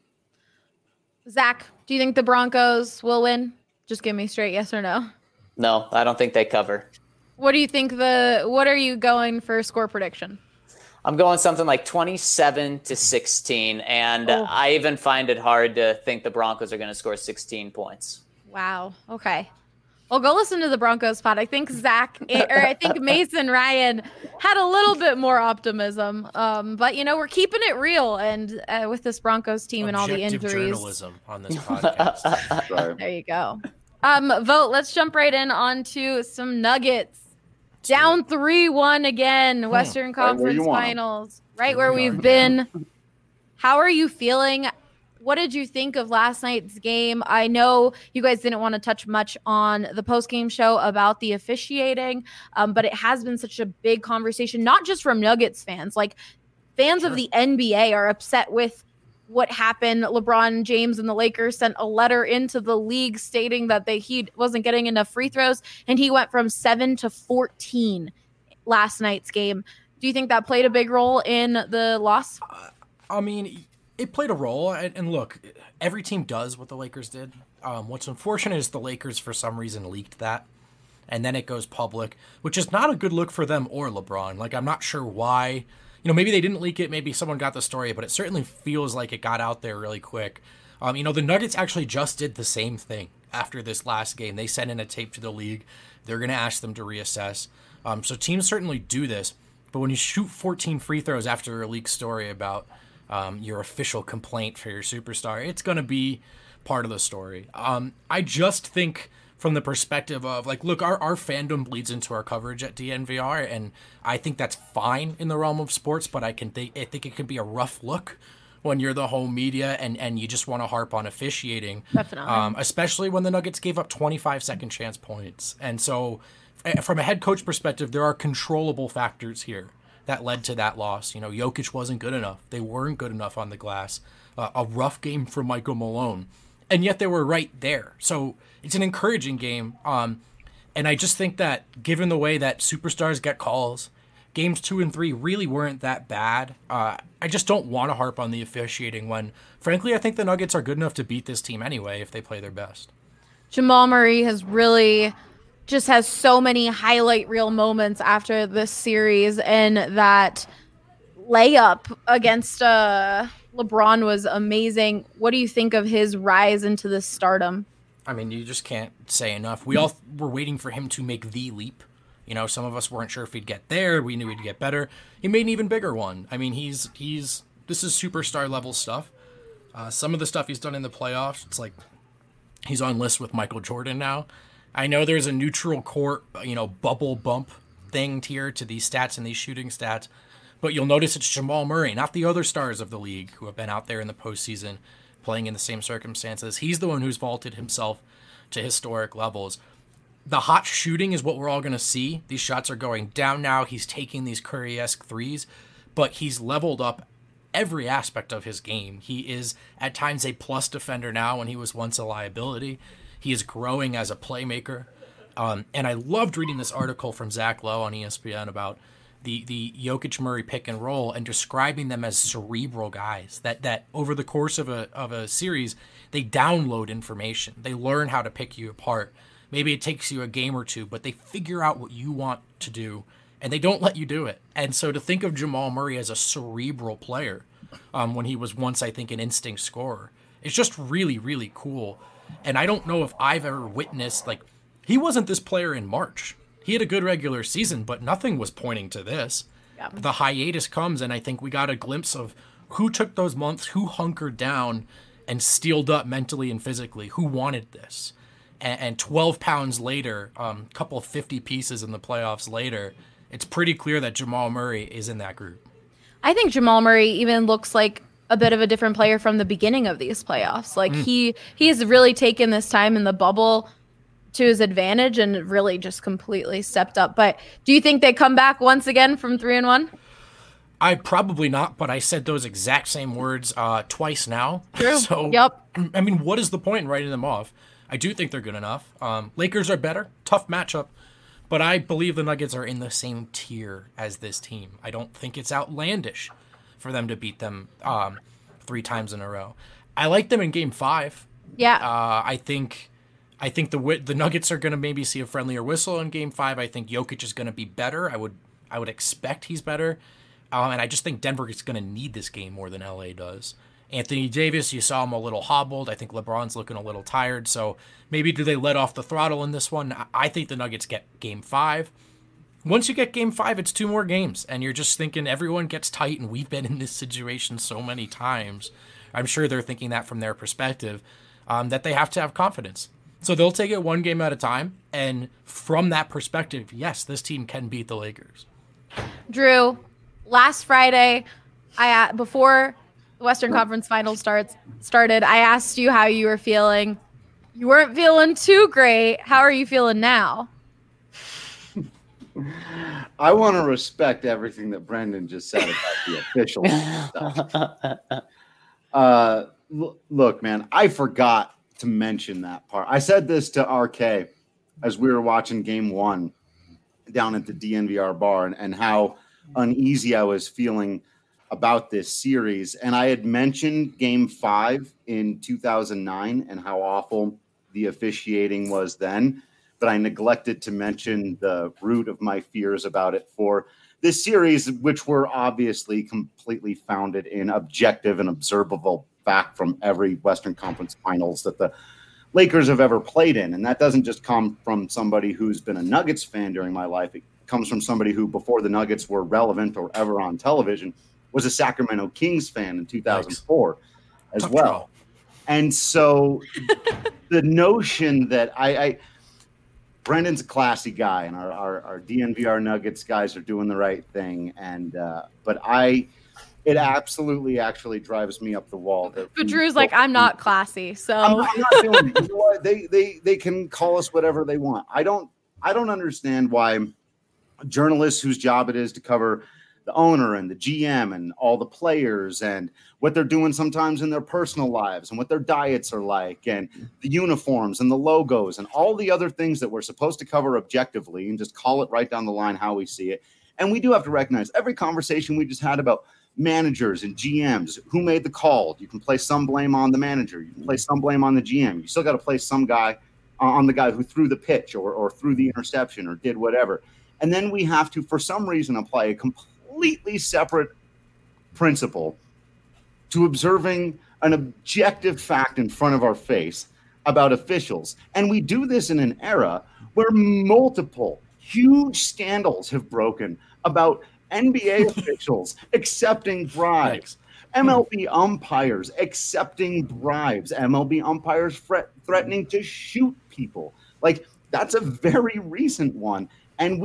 Zach, do you think the Broncos will win? Just give me straight yes or no. No, I don't think they cover. What do you think what are you going for score prediction? I'm going something like 27-16, and I even find it hard to think the Broncos are going to score 16 points. Wow. Okay. Well, go listen to the Broncos pod. I think I think Mason Ryan had a little bit more optimism. But we're keeping it real, and with this Broncos team and all the injuries. Journalism on this podcast. There you go. Vote. Let's jump right in onto some Nuggets. Down 3-1 again. Western Conference Finals. Right where we've been. How are you feeling? What did you think of last night's game? I know you guys didn't want to touch much on the post-game show about the officiating, but it has been such a big conversation, not just from Nuggets fans. Like, fans of the NBA are upset with what happened. LeBron James and the Lakers sent a letter into the league stating that he wasn't getting enough free throws, and he went from 7 to 14 last night's game. Do you think that played a big role in the loss? I mean, it played a role, and look, every team does what the Lakers did. What's unfortunate is the Lakers, for some reason, leaked that, and then it goes public, which is not a good look for them or LeBron. Like, I'm not sure why. Maybe they didn't leak it, maybe someone got the story, but it certainly feels like it got out there really quick. The Nuggets actually just did the same thing after this last game. They sent in a tape to the league they're going to ask them to reassess. So teams certainly do this, but when you shoot 14 free throws after a leaked story about your official complaint for your superstar, it's going to be part of the story. I just think from the perspective of, like, look, our fandom bleeds into our coverage at DNVR, and I think that's fine in the realm of sports, but I think it can be a rough look when you're the home media and you just want to harp on officiating. Definitely. Especially when the Nuggets gave up 25 second chance points. And so from a head coach perspective, there are controllable factors here that led to that loss. You know, Jokic wasn't good enough. They weren't good enough on the glass. A rough game for Michael Malone. And yet they were right there. So it's an encouraging game. And I just think that given the way that superstars get calls, games 2 and 3 really weren't that bad. I just don't want to harp on the officiating when, frankly, I think the Nuggets are good enough to beat this team anyway if they play their best. Jamal Murray has so many highlight reel moments after this series, and that layup against LeBron was amazing. What do you think of his rise into this stardom? I mean, you just can't say enough. We all were waiting for him to make the leap. You know, some of us weren't sure if he'd get there. We knew he'd get better. He made an even bigger one. I mean, this is superstar level stuff. Some of the stuff he's done in the playoffs, it's like he's on lists with Michael Jordan now. I know there's a neutral court, bubble bump thing here to these stats and these shooting stats, but you'll notice it's Jamal Murray, not the other stars of the league who have been out there in the postseason playing in the same circumstances. He's the one who's vaulted himself to historic levels. The hot shooting is what we're all going to see. These shots are going down now. He's taking these Curry-esque threes, but he's leveled up every aspect of his game. He is at times a plus defender now when he was once a liability. He is growing as a playmaker. And I loved reading this article from Zach Lowe on ESPN about the Jokic-Murray pick and roll and describing them as cerebral guys, that over the course of a series, they download information. They learn how to pick you apart. Maybe it takes you a game or two, but they figure out what you want to do, and they don't let you do it. And so to think of Jamal Murray as a cerebral player when he was once, I think, an instinct scorer, it's just really, really cool. And I don't know if I've ever witnessed, like, he wasn't this player in March. He had a good regular season, but nothing was pointing to this. Yeah. The hiatus comes, and I think we got a glimpse of who took those months, who hunkered down and steeled up mentally and physically, who wanted this. And 12 pounds later, a couple of 50 pieces in the playoffs later, it's pretty clear that Jamal Murray is in that group. I think Jamal Murray even looks like a bit of a different player from the beginning of these playoffs. Like he has really taken this time in the bubble to his advantage and really just completely stepped up. But do you think they come back once again from 3-1? I probably not, but I said those exact same words twice now. True. So, yep. I mean, what is the point in writing them off? I do think they're good enough. Lakers are better. Tough matchup. But I believe the Nuggets are in the same tier as this team. I don't think it's outlandish for them to beat them 3 times in a row. I like them in Game 5. Yeah. I think the Nuggets are going to maybe see a friendlier whistle in Game 5. I think Jokic is going to be better. I would expect he's better. And I just think Denver is going to need this game more than LA does. Anthony Davis, you saw him a little hobbled. I think LeBron's looking a little tired. So maybe do they let off the throttle in this one? I think the Nuggets get Game 5. Once you get Game 5, it's 2 more games. And you're just thinking everyone gets tight, and we've been in this situation so many times. I'm sure they're thinking that from their perspective, that they have to have confidence. So they'll take it 1 game at a time. And from that perspective, yes, this team can beat the Lakers. Drew, last Friday, before the Western Conference Finals started, I asked you how you were feeling. You weren't feeling too great. How are you feeling now? I want to respect everything that Brendan just said about the official stuff. Look, man, I forgot to mention that part. I said this to RK as we were watching Game 1 down at the DNVR bar and how uneasy I was feeling about this series. And I had mentioned Game 5 in 2009 and how awful the officiating was then, but I neglected to mention the root of my fears about it for this series, which were obviously completely founded in objective and observable fact from every Western Conference Finals that the Lakers have ever played in. And that doesn't just come from somebody who's been a Nuggets fan during my life. It comes from somebody who, before the Nuggets were relevant or ever on television, was a Sacramento Kings fan in 2004 as Tough well. draw. And so the notion that Brendan's a classy guy, and our DNVR Nuggets guys are doing the right thing. And but it absolutely actually drives me up the wall. But Drew's like, I'm not classy, so I'm not doing it. You know what? They can call us whatever they want. I don't understand why journalists whose job it is to cover the owner and the GM and all the players and what they're doing sometimes in their personal lives and what their diets are like and the uniforms and the logos and all the other things that we're supposed to cover objectively and just call it right down the line how we see it. And we do have to recognize every conversation we just had about managers and GMs, who made the call. You can place some blame on the manager. You can place some blame on the GM. You still got to place some guy on the guy who threw the pitch or threw the interception or did whatever. And then we have to, for some reason, apply a completely separate principle to observing an objective fact in front of our face about officials. And we do this in an era where multiple huge scandals have broken about NBA officials accepting bribes, MLB umpires accepting bribes, MLB umpires threatening to shoot people. Like, that's a very recent one. And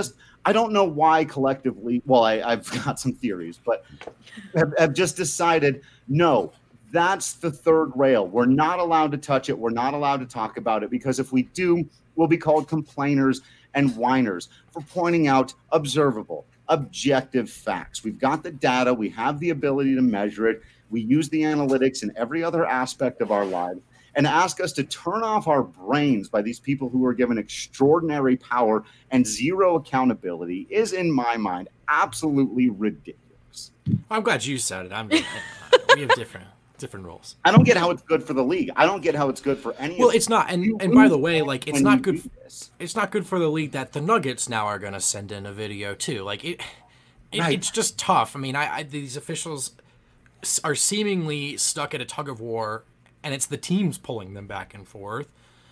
I don't know why collectively, well, I've got some theories, but have just decided, no, that's the third rail. We're not allowed to touch it. We're not allowed to talk about it, because if we do, we'll be called complainers and whiners for pointing out observable, objective facts. We've got the data. We have the ability to measure it. We use the analytics in every other aspect of our lives. And ask us to turn off our brains by these people who are given extraordinary power and zero accountability is, in my mind, absolutely ridiculous. I'm glad you said it. We have different rules. I don't get how it's good for the league. I don't get how it's good for any. Well, it's not. And by the way, like, it's not good. It's not good for the league that the Nuggets now are going to send in a video too. Like it's just tough. I mean, these officials are seemingly stuck at a tug of war, and it's the teams pulling them back and forth.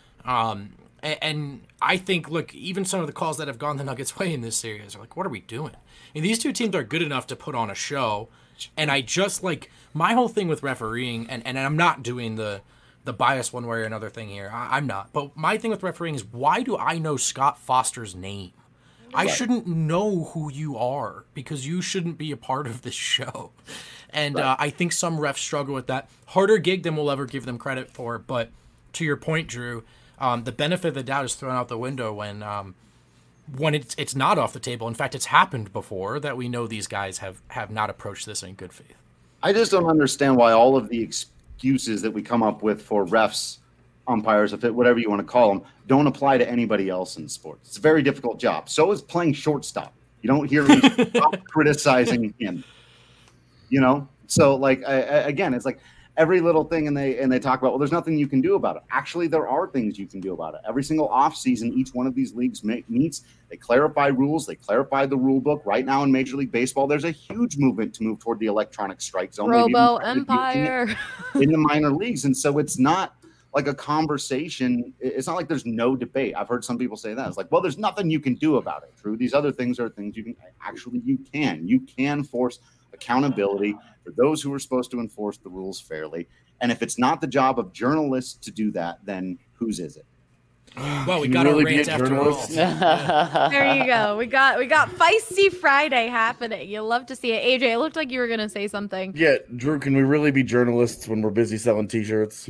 And I think, look, even some of the calls that have gone the Nuggets' way in this series are like, what are we doing? And these two teams are good enough to put on a show. And I just, like, my whole thing with refereeing, and I'm not doing the bias one way or another thing here. I'm not. But my thing with refereeing is, why do I know Scott Foster's name? I shouldn't know who you are, because you shouldn't be a part of this show. And I think some refs struggle with that. Harder gig than we'll ever give them credit for. But to your point, Drew, the benefit of the doubt is thrown out the window when it's not off the table. In fact, it's happened before that we know these guys have not approached this in good faith. I just don't understand why all of the excuses that we come up with for refs, umpires, whatever you want to call them, don't apply to anybody else in sports. It's a very difficult job. So is playing shortstop. You don't hear me criticizing him. You know, so like again, it's like every little thing, and they talk about, well, there's nothing you can do about it. Actually, there are things you can do about it. Every single offseason, each one of these leagues meets. They clarify rules. They clarify the rule book. Right now in Major League Baseball, there's a huge movement to move toward the electronic strike zone. Robo Empire in the minor leagues, and so it's not like a conversation. It's not like there's no debate. I've heard some people say that. It's like, well, there's nothing you can do about it. True. These other things are things you can actually, you can force accountability for those who are supposed to enforce the rules fairly. And if it's not the job of journalists to do that, then whose is it? Well, we got our rants after all. There you go. We got Feisty Friday happening. You'll love to see it. AJ, it looked like you were going to say something. Yeah, Drew, can we really be journalists when we're busy selling T-shirts?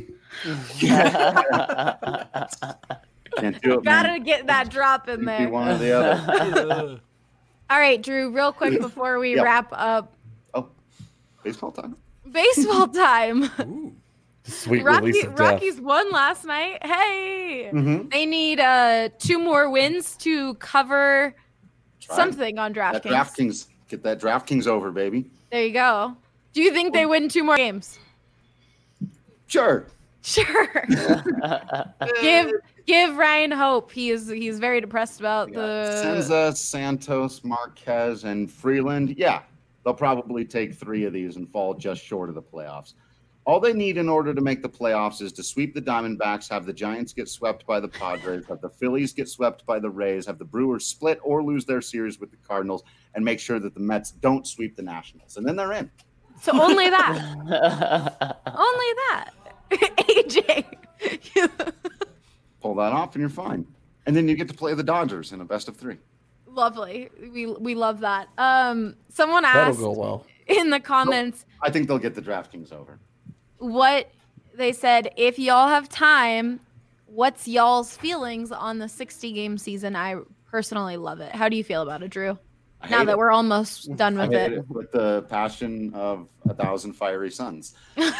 Can't do it, Gotta man. get that drop in there. Be one or the other. All right, Drew, real quick before we wrap up. Oh, baseball time. Baseball time. Ooh. Sweet release of death. Rockies won last night. Hey, Mm-hmm. they need 2 more wins to cover something on DraftKings. Get that DraftKings over, baby. There you go. Do you think they win 2 more games? Sure. Give Ryan hope. He's very depressed about Senza, Santos, Marquez, and Freeland. Yeah, they'll probably take 3 of these and fall just short of the playoffs. All they need in order to make the playoffs is to sweep the Diamondbacks, have the Giants get swept by the Padres, have the Phillies get swept by the Rays, have the Brewers split or lose their series with the Cardinals, and make sure that the Mets don't sweep the Nationals. And then they're in. So only that. Only that. AJ. Pull that off and you're fine. And then you get to play the Dodgers in a best of 3. Lovely. We love that. Someone That'll asked go well. in the comments. I think they'll get the DraftKings over. What they said, if y'all have time, what's y'all's feelings on the 60-game season? I personally love it. How do you feel about it, Drew? Now that we're almost done with it. With the passion of 1,000 fiery suns.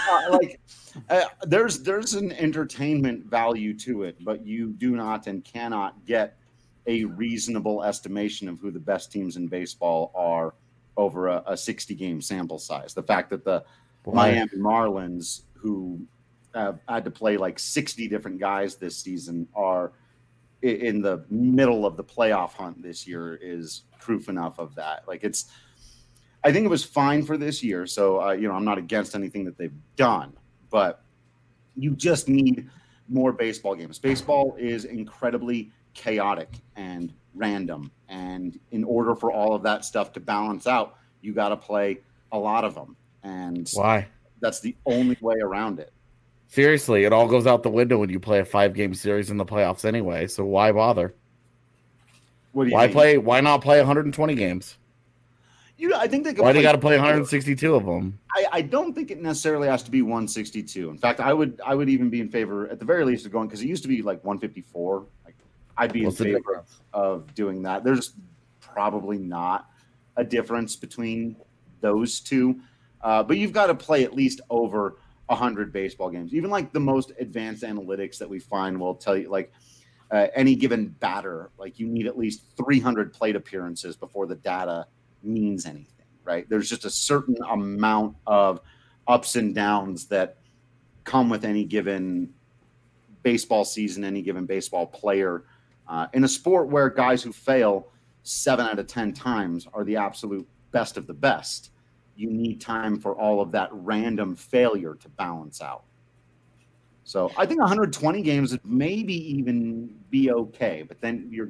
There's an entertainment value to it, but you do not and cannot get a reasonable estimation of who the best teams in baseball are over a 60-game sample size. The fact that the Miami Marlins, who had to play like 60 different guys this season, are in the middle of the playoff hunt this year is proof enough of that. I think it was fine for this year. So, I'm not against anything that they've done, but you just need more baseball games. Baseball is incredibly chaotic and random. And in order for all of that stuff to balance out, you got to play a lot of them. And why? That's the only way around it. Seriously, it all goes out the window when you play a 5-game series in the playoffs anyway. So why bother? What do you mean? Why not play 120 games? I think they could. Why do you got to play 162 of them? I don't think it necessarily has to be 162. In fact, I would even be in favor, at the very least, of going, because it used to be like 154. I'd be in favor of doing that. There's probably not a difference between those two, but you've got to play at least over 100 baseball games. Even like the most advanced analytics that we find will tell you, any given batter, you need at least 300 plate appearances before the data means anything, right? There's just a certain amount of ups and downs that come with any given baseball season, any given baseball player. In a sport where guys who fail 7 out of 10 times are the absolute best of the best, you need time for all of that random failure to balance out. So I think 120 games would maybe even be okay, but then you're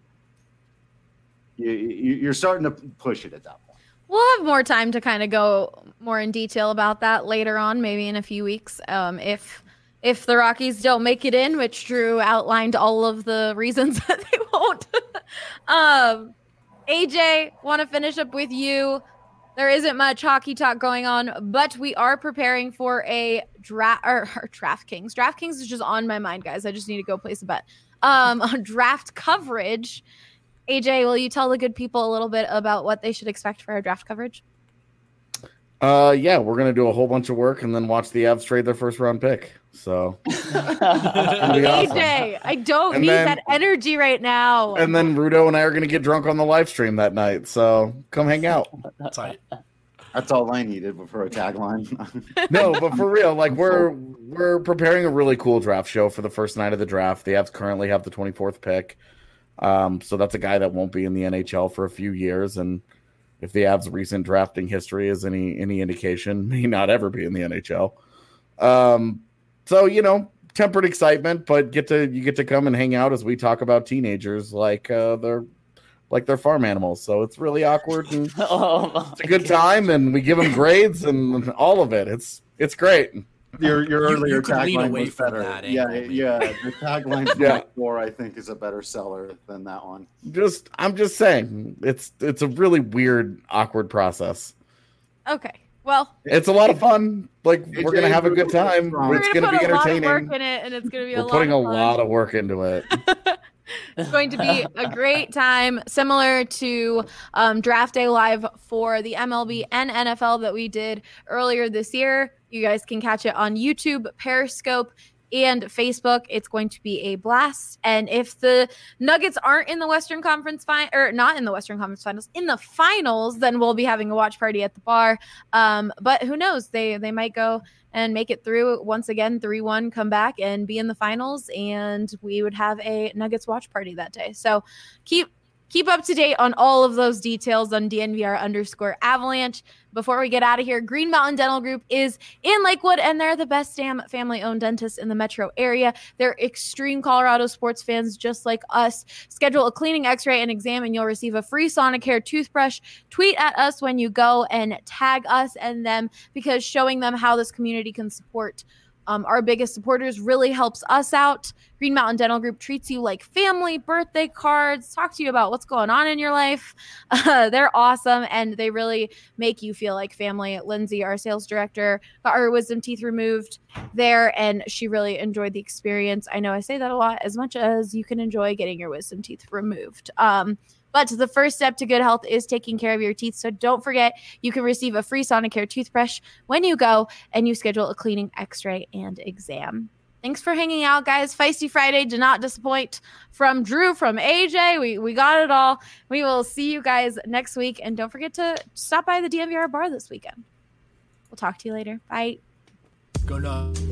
starting to push it at that point. We'll have more time to kind of go more in detail about that later on, maybe in a few weeks. If the Rockies don't make it in, which Drew outlined all of the reasons that they won't. AJ, want to finish up with you. There isn't much hockey talk going on, but we are preparing for a DraftKings. DraftKings is just on my mind, guys. I just need to go place a bet. On draft coverage. AJ, will you tell the good people a little bit about what they should expect for our draft coverage? Yeah, we're going to do a whole bunch of work and then watch the Avs trade their first round pick. So, AJ, I don't need that energy right now. And then Rudo and I are going to get drunk on the live stream that night. So come hang out. That's all I needed for a tagline. No, but for real, we're preparing a really cool draft show for the first night of the draft. The Avs currently have the 24th pick. So that's a guy that won't be in the NHL for a few years. And if the Avs' recent drafting history is any indication, may not ever be in the NHL. So, tempered excitement, but you get to come and hang out as we talk about teenagers like they're farm animals. So it's really awkward and it's a good time, and we give them grades and all of it. It's great. Your earlier tagline was better. Yeah. The tagline from before, I think, is a better seller than that one. I'm just saying, it's a really weird, awkward process. Okay. Well, it's a lot of fun. We're gonna have a good time. It's gonna be entertaining. We're gonna put a lot of work in it, and it's gonna be We're putting a lot of work into it. It's going to be a great time, similar to Draft Day Live for the MLB and NFL that we did earlier this year. You guys can catch it on YouTube, Periscope, and Facebook. It's going to be a blast. And if the Nuggets aren't in the Western Conference not in the Western Conference Finals, in the finals, then we'll be having a watch party at the bar. But who knows? They might go and make it through once again, 3-1, come back and be in the finals, and we would have a Nuggets watch party that day. So keep Keep up to date on all of those details on DNVR_Avalanche. Before we get out of here, Green Mountain Dental Group is in Lakewood, and they're the best damn family-owned dentist in the metro area. They're extreme Colorado sports fans just like us. Schedule a cleaning, x-ray, and exam, and you'll receive a free Sonicare toothbrush. Tweet at us when you go and tag us and them, because showing them how this community can support our biggest supporters really helps us out. Green Mountain Dental Group treats you like family, birthday cards, talk to you about what's going on in your life. They're awesome, and they really make you feel like family. Lindsay, our sales director, got her wisdom teeth removed there, and she really enjoyed the experience. I know I say that a lot, as much as you can enjoy getting your wisdom teeth removed. But the first step to good health is taking care of your teeth. So don't forget, you can receive a free Sonicare toothbrush when you go and you schedule a cleaning, x-ray, and exam. Thanks for hanging out, guys. Feisty Friday did not disappoint from Drew, from AJ. We got it all. We will see you guys next week. And don't forget to stop by the DNVR bar this weekend. We'll talk to you later. Bye. Go nuts.